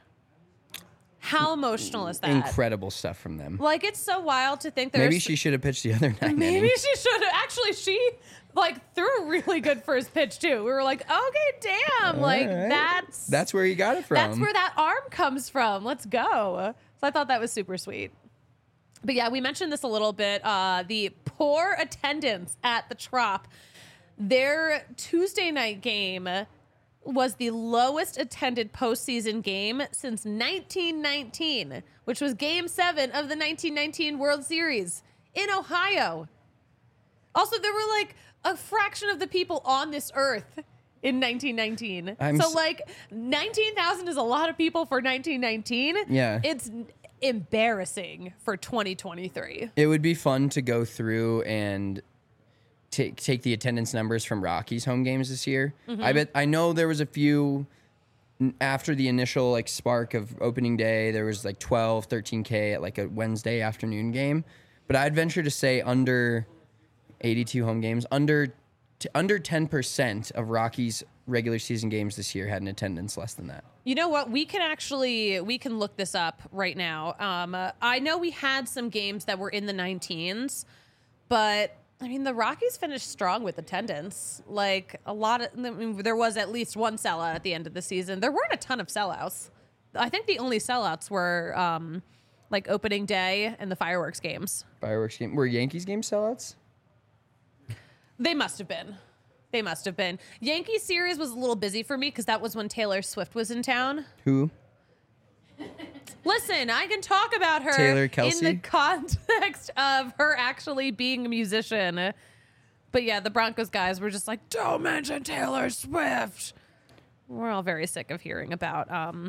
A: How emotional is that?
B: Incredible stuff from them.
A: Like, it's so wild to think there's...
B: Maybe she should have pitched the other 9
A: Maybe
B: innings.
A: she should have. Actually, she, like, threw a really good first pitch, too. We were like, okay, damn. Like,
B: right. That's where you got it from.
A: That's where that arm comes from. Let's go. So I thought that was super sweet. But yeah, we mentioned this a little bit. The poor attendance at the Trop. Their Tuesday night game was the lowest attended postseason game since 1919, which was Game 7 of the 1919 World Series in Ohio. Also, there were like a fraction of the people on this earth in 1919. So like 19,000 is a lot of people for 1919.
B: Yeah.
A: It's embarrassing for 2023.
B: It would be fun to go through and take the attendance numbers from Rockies home games this year. I know there was a few after the initial like spark of opening day. There was like 12, 13K at like a Wednesday afternoon game. But I'd venture to say under 82 home games, under 10% of Rockies regular season games this year had an attendance less than that.
A: You know what? We can look this up right now. I know we had some games that were in the 19s, but I mean, the Rockies finished strong with attendance. Like there was at least one sellout at the end of the season. There weren't a ton of sellouts. I think the only sellouts were like opening day and the fireworks games.
B: Were Yankees games sellouts?
A: They must have been. Yankee series was a little busy for me because that was when Taylor Swift was in town.
B: Who?
A: Listen, I can talk about her
B: Taylor Kelsey?
A: in the context of her actually being a musician. But yeah, the Broncos guys were just like, don't mention Taylor Swift. We're all very sick of hearing about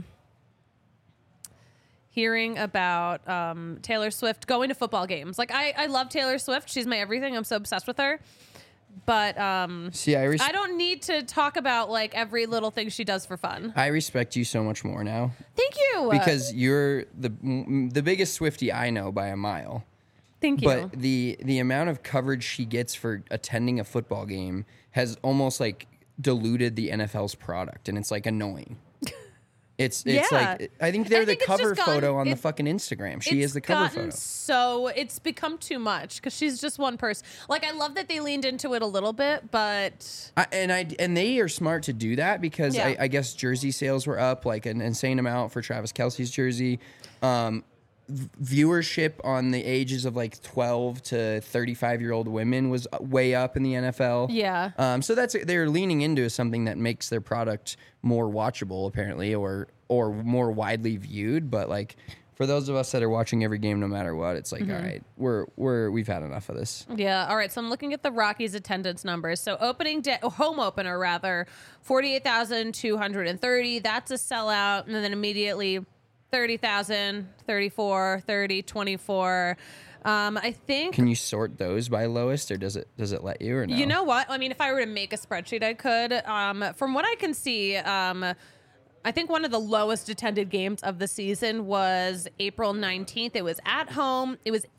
A: Taylor Swift going to football games. Like, I love Taylor Swift. She's my everything. I'm so obsessed with her. But
B: See, I don't
A: need to talk about like every little thing she does for fun.
B: I respect you so much more now.
A: Thank you.
B: Because you're the biggest Swiftie I know by a mile.
A: Thank you.
B: But the amount of coverage she gets for attending a football game has almost like diluted the NFL's product, and it's like annoying. It's like I think they're the cover photo on the fucking Instagram. She is the cover photo.
A: So it's become too much because she's just one person. Like, I love that they leaned into it a little bit, but
B: and they are smart to do that because I guess jersey sales were up like an insane amount for Travis Kelce's jersey. Viewership on the ages of like 12 to 35-year-old women was way up in the NFL.
A: Yeah.
B: So they're leaning into something that makes their product more watchable, apparently, or more widely viewed. But like for those of us that are watching every game, no matter what, it's like, all right, we've had enough of this.
A: Yeah. All right. So I'm looking at the Rockies attendance numbers. So home opener rather, 48,230. That's a sellout, and then immediately 30,000, 34, 30, 24. I think.
B: Can you sort those by lowest, or does it let you, or no?
A: You know what? I mean, if I were to make a spreadsheet, I could. From what I can see, I think one of the lowest attended games of the season was April 19th. It was at home. It was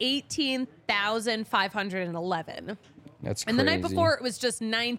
A: 18,511.
B: That's crazy.
A: And the night before, it was just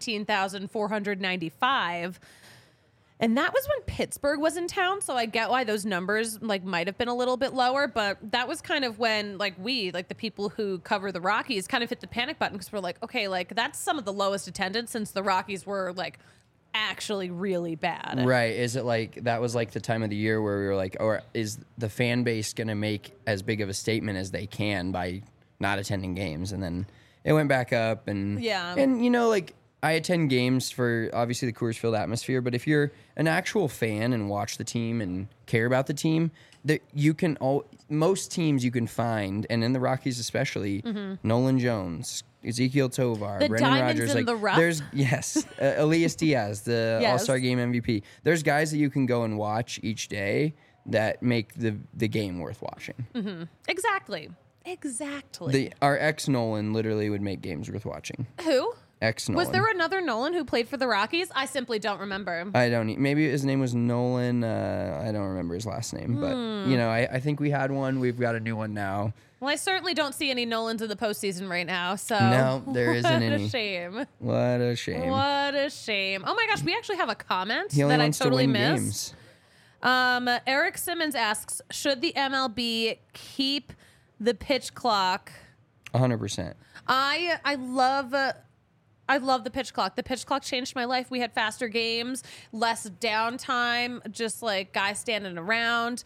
A: 19,495. And that was when Pittsburgh was in town, so I get why those numbers like might have been a little bit lower, but that was kind of when like the people who cover the Rockies kind of hit the panic button because we're like, okay, like that's some of the lowest attendance since the Rockies were like actually really bad.
B: Right. Is it like that was like the time of the year where we were like, or is the fan base going to make as big of a statement as they can by not attending games? And then it went back up and you know, like I attend games for obviously the Coors Field atmosphere, but if you're an actual fan and watch the team and care about the team, that you can most teams you can find, and in the Rockies especially, Nolan Jones, Ezekiel Tovar,
A: the
B: Brendan
A: diamonds
B: Rodgers,
A: in
B: like
A: the rough.
B: there's Elias Diaz, the
A: Yes.
B: All-Star Game MVP. There's guys that you can go and watch each day that make the game worth watching.
A: Exactly.
B: Our ex Nolan literally would make games worth watching.
A: Who?
B: Ex Nolan.
A: Was there another Nolan who played for the Rockies? I simply don't remember.
B: I don't. Maybe his name was Nolan. I don't remember his last name, but I think we had one. We've got a new one now.
A: Well, I certainly don't see any Nolans in the postseason right now. So
B: No, there isn't
A: what
B: any.
A: a shame.
B: What a shame.
A: What a shame. Oh my gosh, we actually have a comment
B: He only
A: that I
B: wants
A: totally
B: to win
A: missed.
B: games.
A: Eric Simmons asks, should the MLB keep the pitch clock?
B: 100%.
A: I love the pitch clock. The pitch clock changed my life. We had faster games, less downtime, just like guys standing around.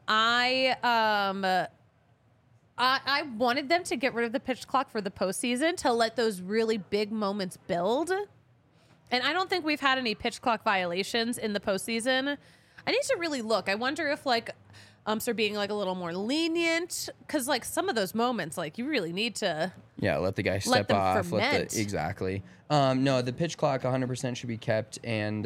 A: I wanted them to get rid of the pitch clock for the postseason to let those really big moments build. And I don't think we've had any pitch clock violations in the postseason. I need to really look. I wonder if like umps are being like a little more lenient, because like some of those moments, like you really need to.
B: Yeah, let the guy
A: Let
B: step
A: them
B: off.
A: ferment.
B: Exactly. No, the pitch clock 100% should be kept, and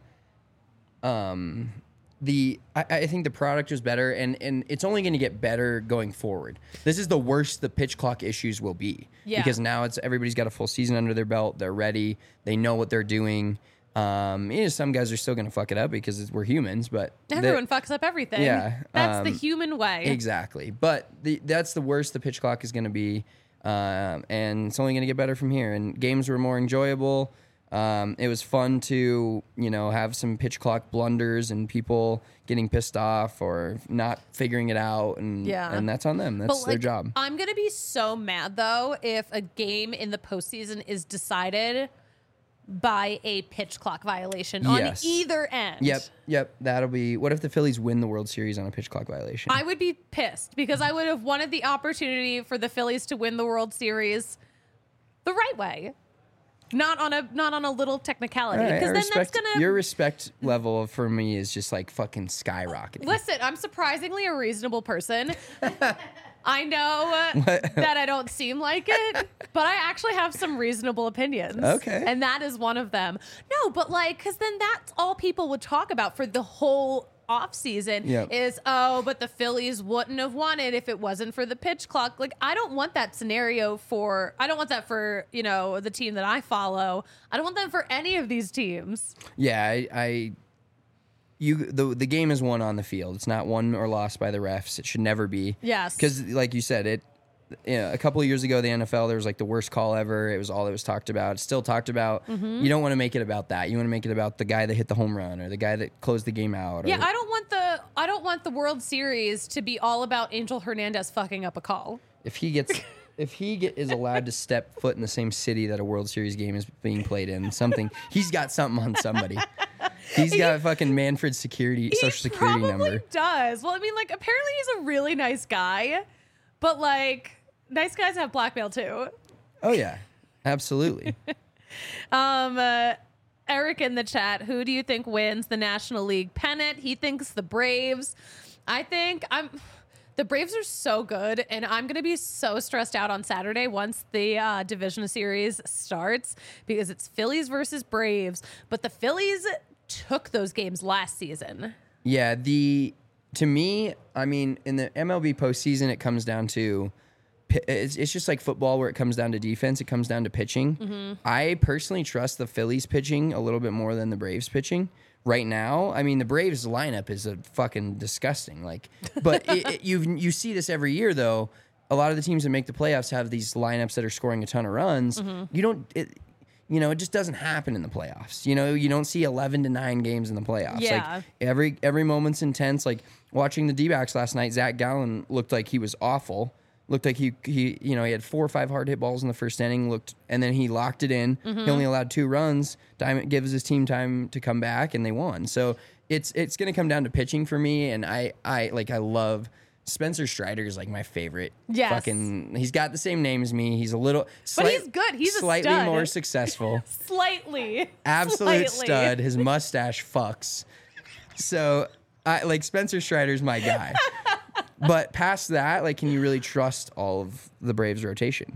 B: I think the product was better, and it's only going to get better going forward. This is the worst the pitch clock issues will be, because now everybody's got a full season under their belt. They're ready. They know what they're doing. Some guys are still going to fuck it up because we're humans, but
A: Everyone fucks up everything.
B: Yeah,
A: That's the human way.
B: exactly. But that's the worst the pitch clock is going to be, and it's only going to get better from here. And games were more enjoyable. It was fun to have some pitch clock blunders and people getting pissed off or not figuring it out, and that's on them. That's their job.
A: I'm gonna be so mad though if a game in the postseason is decided by a pitch clock violation on either end.
B: Yep. That'll be. What if the Phillies win the World Series on a pitch clock violation?
A: I would be pissed because I would have wanted the opportunity for the Phillies to win the World Series the right way. Not on a little technicality, because then that's gonna.
B: Your respect level for me is just like fucking skyrocketing.
A: Listen, I'm surprisingly a reasonable person. I know that I don't seem like it, but I actually have some reasonable opinions.
B: Okay,
A: and that is one of them. No, but like, because then that's all people would talk about for the whole off season is, but the Phillies wouldn't have won it if it wasn't for the pitch clock. Like, I don't want that scenario I don't want that for, the team that I follow. I don't want that for any of these teams.
B: Yeah, the game is won on the field. It's not won or lost by the refs. It should never be.
A: Yes.
B: Because like you said, a couple of years ago, the NFL, there was like the worst call ever. It was all that was talked about. It's still talked about. Mm-hmm. You don't want to make it about that. You want to make it about the guy that hit the home run or the guy that closed the game out.
A: Yeah, I don't want the World Series to be all about Angel Hernandez fucking up a call.
B: If he is allowed to step foot in the same city that a World Series game is being played in, he's got something on somebody. He's got fucking Manfred's social security number.
A: He probably does. Well, I mean, like, apparently he's a really nice guy, but like, nice guys have blackmail too.
B: Oh yeah, absolutely.
A: Eric in the chat, who do you think wins the National League pennant? He thinks the Braves. The Braves are so good, and I'm going to be so stressed out on Saturday once the division series starts, because it's Phillies versus Braves. But the Phillies took those games last season. Yeah,
B: to me, I mean, in the MLB postseason, it comes down to it's just like football where it comes down to defense. It comes down to pitching. Mm-hmm. I personally trust the Phillies pitching a little bit more than the Braves pitching right now. I mean, the Braves lineup is a fucking disgusting. Like, but you see this every year though. A lot of the teams that make the playoffs have these lineups that are scoring a ton of runs. Mm-hmm. It just doesn't happen in the playoffs. You don't see 11-9 games in the playoffs.
A: Yeah.
B: Like every moment's intense. Like watching the D-backs last night, Zach Gallen looked like he was awful. Looked like he had 4 or 5 hard hit balls in the first inning. And then he locked it in. Mm-hmm. He only allowed 2 runs. It gives his team time to come back, and they won. So it's going to come down to pitching for me. And I love Spencer Strider is like my favorite.
A: Yes.
B: He's got the same name as me. He's but
A: he's good. He's
B: slightly
A: a stud.
B: more successful.
A: Slightly.
B: Absolute stud. His mustache fucks. So Spencer Strider's my guy. But past that, like, can you really trust all of the Braves rotation?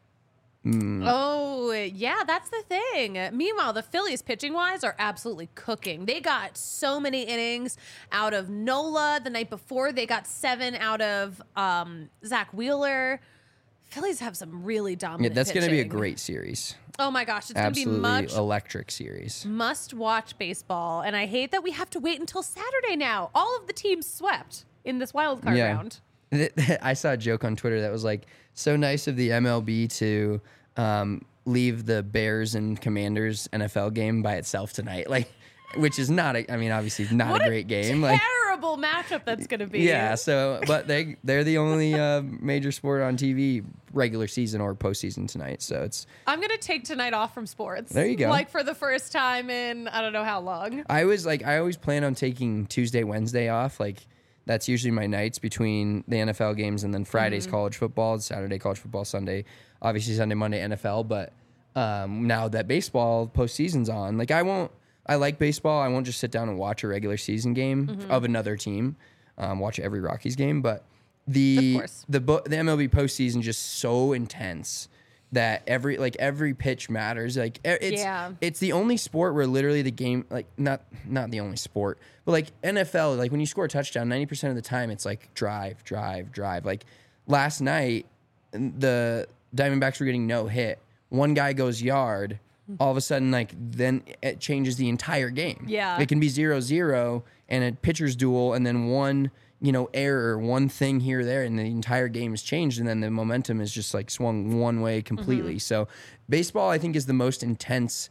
A: Oh, yeah, that's the thing. Meanwhile, the Phillies, pitching-wise, are absolutely cooking. They got so many innings out of Nola the night before. They got 7 out of Zach Wheeler. Phillies have some really dominant
B: that's going to be a
A: pitching.
B: great series.
A: Oh my gosh, it's going to be
B: Absolutely
A: much
B: electric series.
A: must-watch baseball, and I hate that we have to wait until Saturday now. All of the teams swept in this wild card round.
B: I saw a joke on Twitter that was like, so nice of the MLB to leave the Bears and Commanders NFL game by itself tonight. Like, which is not, obviously not a great game. Like,
A: Terrible matchup that's going to be.
B: yeah. So, but they're the only major sport on TV regular season or postseason tonight. So
A: I'm going to take tonight off from sports.
B: There you go.
A: Like for the first time in I don't know how long.
B: I always plan on taking Tuesday, Wednesday off. Like, that's usually my nights between the NFL games, and then Friday's college football, Saturday college football, Sunday, obviously Sunday, Monday NFL. But now that baseball postseason's on, like I like baseball. I won't just sit down and watch a regular season game of another team, watch every Rockies game. But the MLB postseason just so intense that every pitch matters. Like it's the only sport where literally the game, like not the only sport, but like NFL, like when you score a touchdown, 90% of the time it's like drive. Like last night, the Diamondbacks were getting no hit. One guy goes yard. All of a sudden, like then it changes the entire game.
A: Yeah,
B: it can be 0-0 and a pitcher's duel, and then one error, one thing here or there, and the entire game is changed, and then the momentum is just like swung one way completely. So baseball, I think, is the most intense.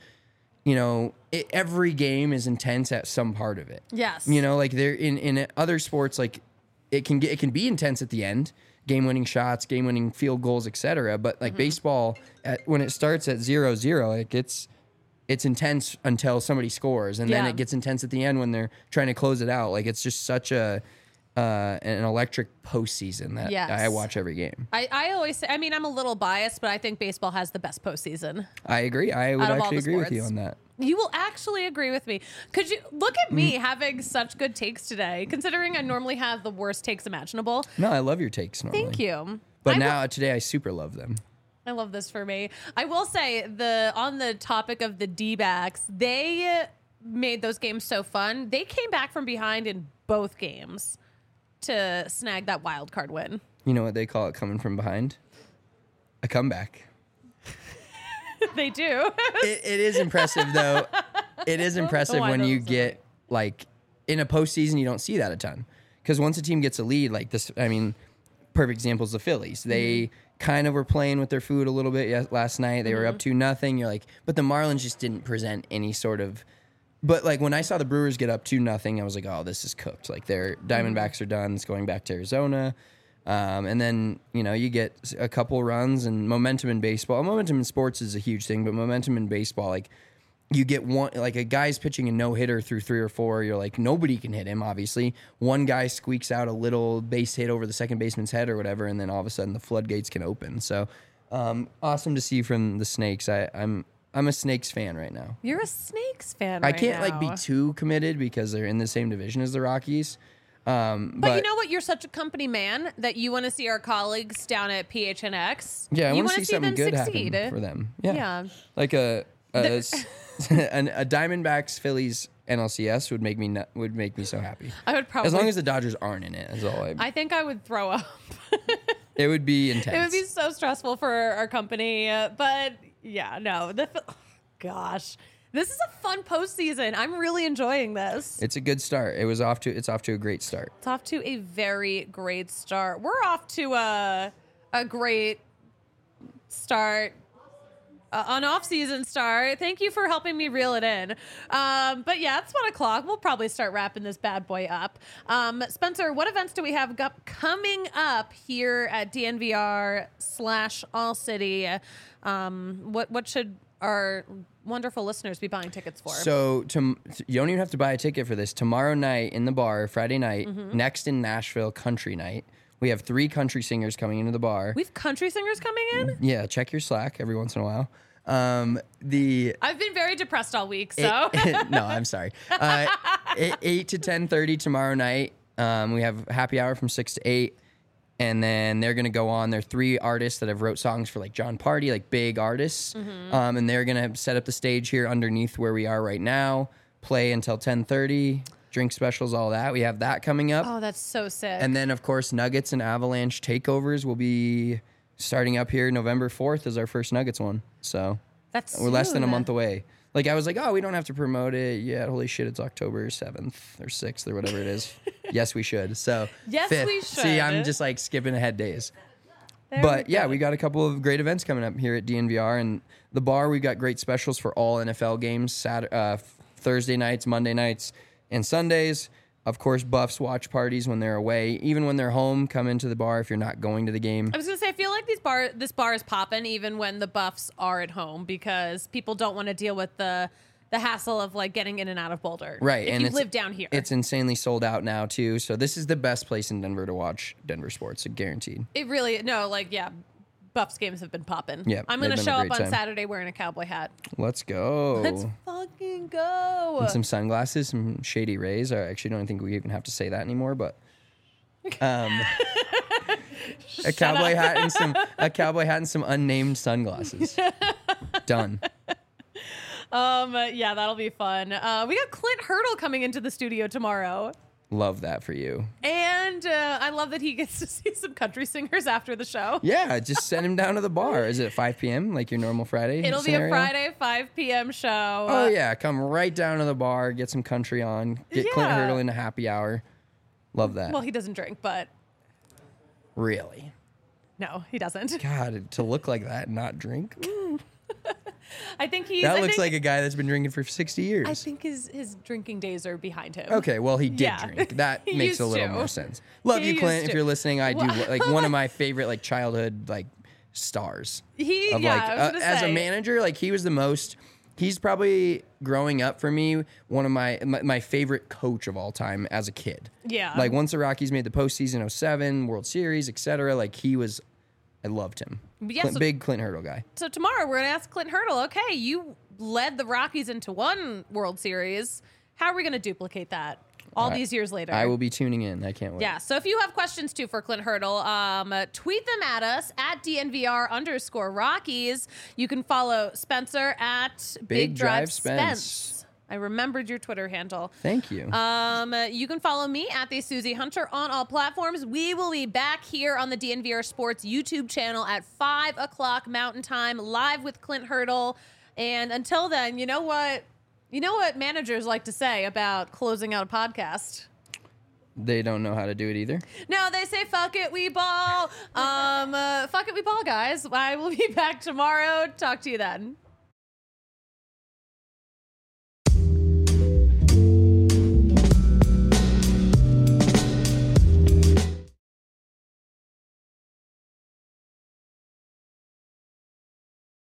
B: Every game is intense at some part of it.
A: Yes.
B: Like there in other sports, like it can be intense at the end, game-winning shots, game-winning field goals, etc. But like baseball, when it starts at 0-0, like it's intense until somebody scores, and then it gets intense at the end when they're trying to close it out. Like it's just such an electric postseason that I watch every game.
A: I always say, I'm a little biased, but I think baseball has the best postseason.
B: I agree. I would actually agree with you on that.
A: You will actually agree with me. Could you look at me having such good takes today, considering I normally have the worst takes imaginable?
B: No, I love your takes normally.
A: Thank you.
B: But today I super love them.
A: I love this for me. I will say on the topic of the D-backs, they made those games so fun. They came back from behind in both games to snag that wild card win.
B: You know what they call it coming from behind? A comeback.
A: They do.
B: It is impressive, though. It is impressive when you get, like, in a postseason, you don't see that a ton. Because once a team gets a lead, like this, perfect example is the Phillies. They kind of were playing with their food a little bit last night. They were up 2-0. You're like, but the Marlins just didn't present any sort of. But, like, when I saw the Brewers get up 2-0, I was like, oh, this is cooked. Like, their Diamondbacks are done. It's going back to Arizona. And then, you get a couple runs and momentum in baseball. Momentum in sports is a huge thing, but momentum in baseball, like you get one, like a guy's pitching a no-hitter through 3 or 4. You're like, nobody can hit him, obviously. One guy squeaks out a little base hit over the second baseman's head or whatever, and then all of a sudden the floodgates can open. So awesome to see from the Snakes. I'm a Snakes fan right now.
A: You're a Snakes fan
B: I can't be too committed because they're in the same division as the Rockies. But
A: you know what? You're such a company man that you want to see our colleagues down at PHNX.
B: Yeah, I
A: want
B: to see something good happen for them. Yeah. Like a Diamondbacks Phillies NLCS would make me so happy.
A: I would probably,
B: as long as the Dodgers aren't in it. Is all
A: I think I would throw up.
B: It would be intense.
A: It would be so stressful for our company. But yeah, no. Gosh. This is a fun postseason. I'm really enjoying this.
B: It's a good start. It's off to a great start.
A: It's off to a very great start. We're off to a great start, an off-season start. Thank you for helping me reel it in. But yeah, it's 1 o'clock. We'll probably start wrapping this bad boy up. Spencer, what events do we have coming up here at DNVR/All City? What should our wonderful listeners be buying tickets for?
B: So you don't even have to buy a ticket for this. Tomorrow night in the bar, Friday night, next in Nashville, country night. We have 3 country singers coming into the bar.
A: We have country singers coming in?
B: Yeah, check your Slack every once in a while. I've
A: been very depressed all week, so.
B: No, I'm sorry. 8 to 10:30 tomorrow night. We have happy hour from 6 to 8. And then they're going to go on. They're 3 artists that have wrote songs for like John Party, like big artists. And they're going to set up the stage here underneath where we are right now, play until 10:30, drink specials, all that. We have that coming up.
A: Oh, that's so sick.
B: And then, of course, Nuggets and Avalanche takeovers will be starting up here. November 4th is our first Nuggets one. So
A: That's
B: We're less than a
A: soon.
B: month away. Like I was like, oh, we don't have to promote it. Yeah, holy shit, it's October 7th or 6th or whatever it is. Yes, we should. So
A: Yes,
B: 5th.
A: we
B: See, I'm
A: should.
B: just like skipping ahead days.
A: There
B: But
A: we
B: yeah,
A: go.
B: we got a couple of great events coming up here at DNVR and the bar. We got great specials for all NFL games, Thursday nights, Monday nights, and Sundays. Of course, Buffs watch parties when they're away. Even when they're home, come into the bar if you're not going to the game.
A: I was gonna say, I feel like this bar is popping even when the Buffs are at home because people don't want to deal with the hassle of like getting in and out of Boulder.
B: Right,
A: If
B: and
A: you
B: it's-
A: live down here.
B: It's insanely sold out now too. So this is the best place in Denver to watch Denver sports, guaranteed.
A: It really Buffs games have been popping.
B: Yeah,
A: I'm
B: they've
A: gonna
B: been a
A: show up
B: great
A: on
B: time.
A: Saturday wearing a cowboy hat.
B: Let's go.
A: Let's fucking go.
B: And some sunglasses, some shady rays. I actually don't think we even have to say that anymore, but a cowboy hat and some unnamed sunglasses. Done.
A: Yeah, that'll be fun. We got Clint Hurdle coming into the studio tomorrow.
B: Love that for you.
A: And I love that he gets to see some country singers after the show.
B: Yeah, just send him down to the bar. Is it 5 p.m. like your normal Friday?
A: It'll be a
B: scenario?
A: Friday 5 p.m. show.
B: Oh yeah, come right down to the bar, get some country on, get Clint
A: Yeah.
B: Hurdle in a happy hour. Love that.
A: Well, he doesn't drink, but
B: Really?
A: no, he doesn't.
B: God, to look like that and not drink?
A: I think he's.
B: That
A: I
B: looks
A: think,
B: like a guy that's been drinking for 60 years.
A: I think his drinking days are behind him.
B: Okay, well, he did
A: Yeah.
B: drink. That
A: He
B: makes a
A: used
B: little
A: to.
B: more sense. Love
A: He
B: you, Clint.
A: used
B: If
A: to.
B: you're listening, I do
A: Well,
B: like one of my favorite like childhood like stars.
A: I was
B: Of
A: gonna
B: as a
A: say.
B: manager, like he was the most. He's probably growing up for me one of my favorite coach of all time as a kid.
A: Yeah.
B: Like once the Rockies made the postseason 07, World Series, etc. Like he was, I loved him.
A: But yeah, so-
B: Big Clint Hurdle guy.
A: So tomorrow we're gonna ask Clint Hurdle. Okay, you led the Rockies into one World Series. How are we gonna duplicate that all these years later?
B: I will be tuning in. I can't wait.
A: Yeah, so if you have questions too for Clint Hurdle, tweet them at us at DNVR_Rockies. You can follow Spencer at
B: Big Drive
A: Spence.
B: Spence.
A: I remembered your Twitter handle.
B: Thank you.
A: You can follow me at the Susie Hunter on all platforms. We will be back here on the DNVR Sports YouTube channel at 5 o'clock Mountain Time, live with Clint Hurdle. And until then, you know what? You know what managers like to say about closing out a podcast?
B: They don't know how to do it either.
A: No, they say fuck it, we ball. Fuck it, we ball, guys. I will be back tomorrow. Talk to you then.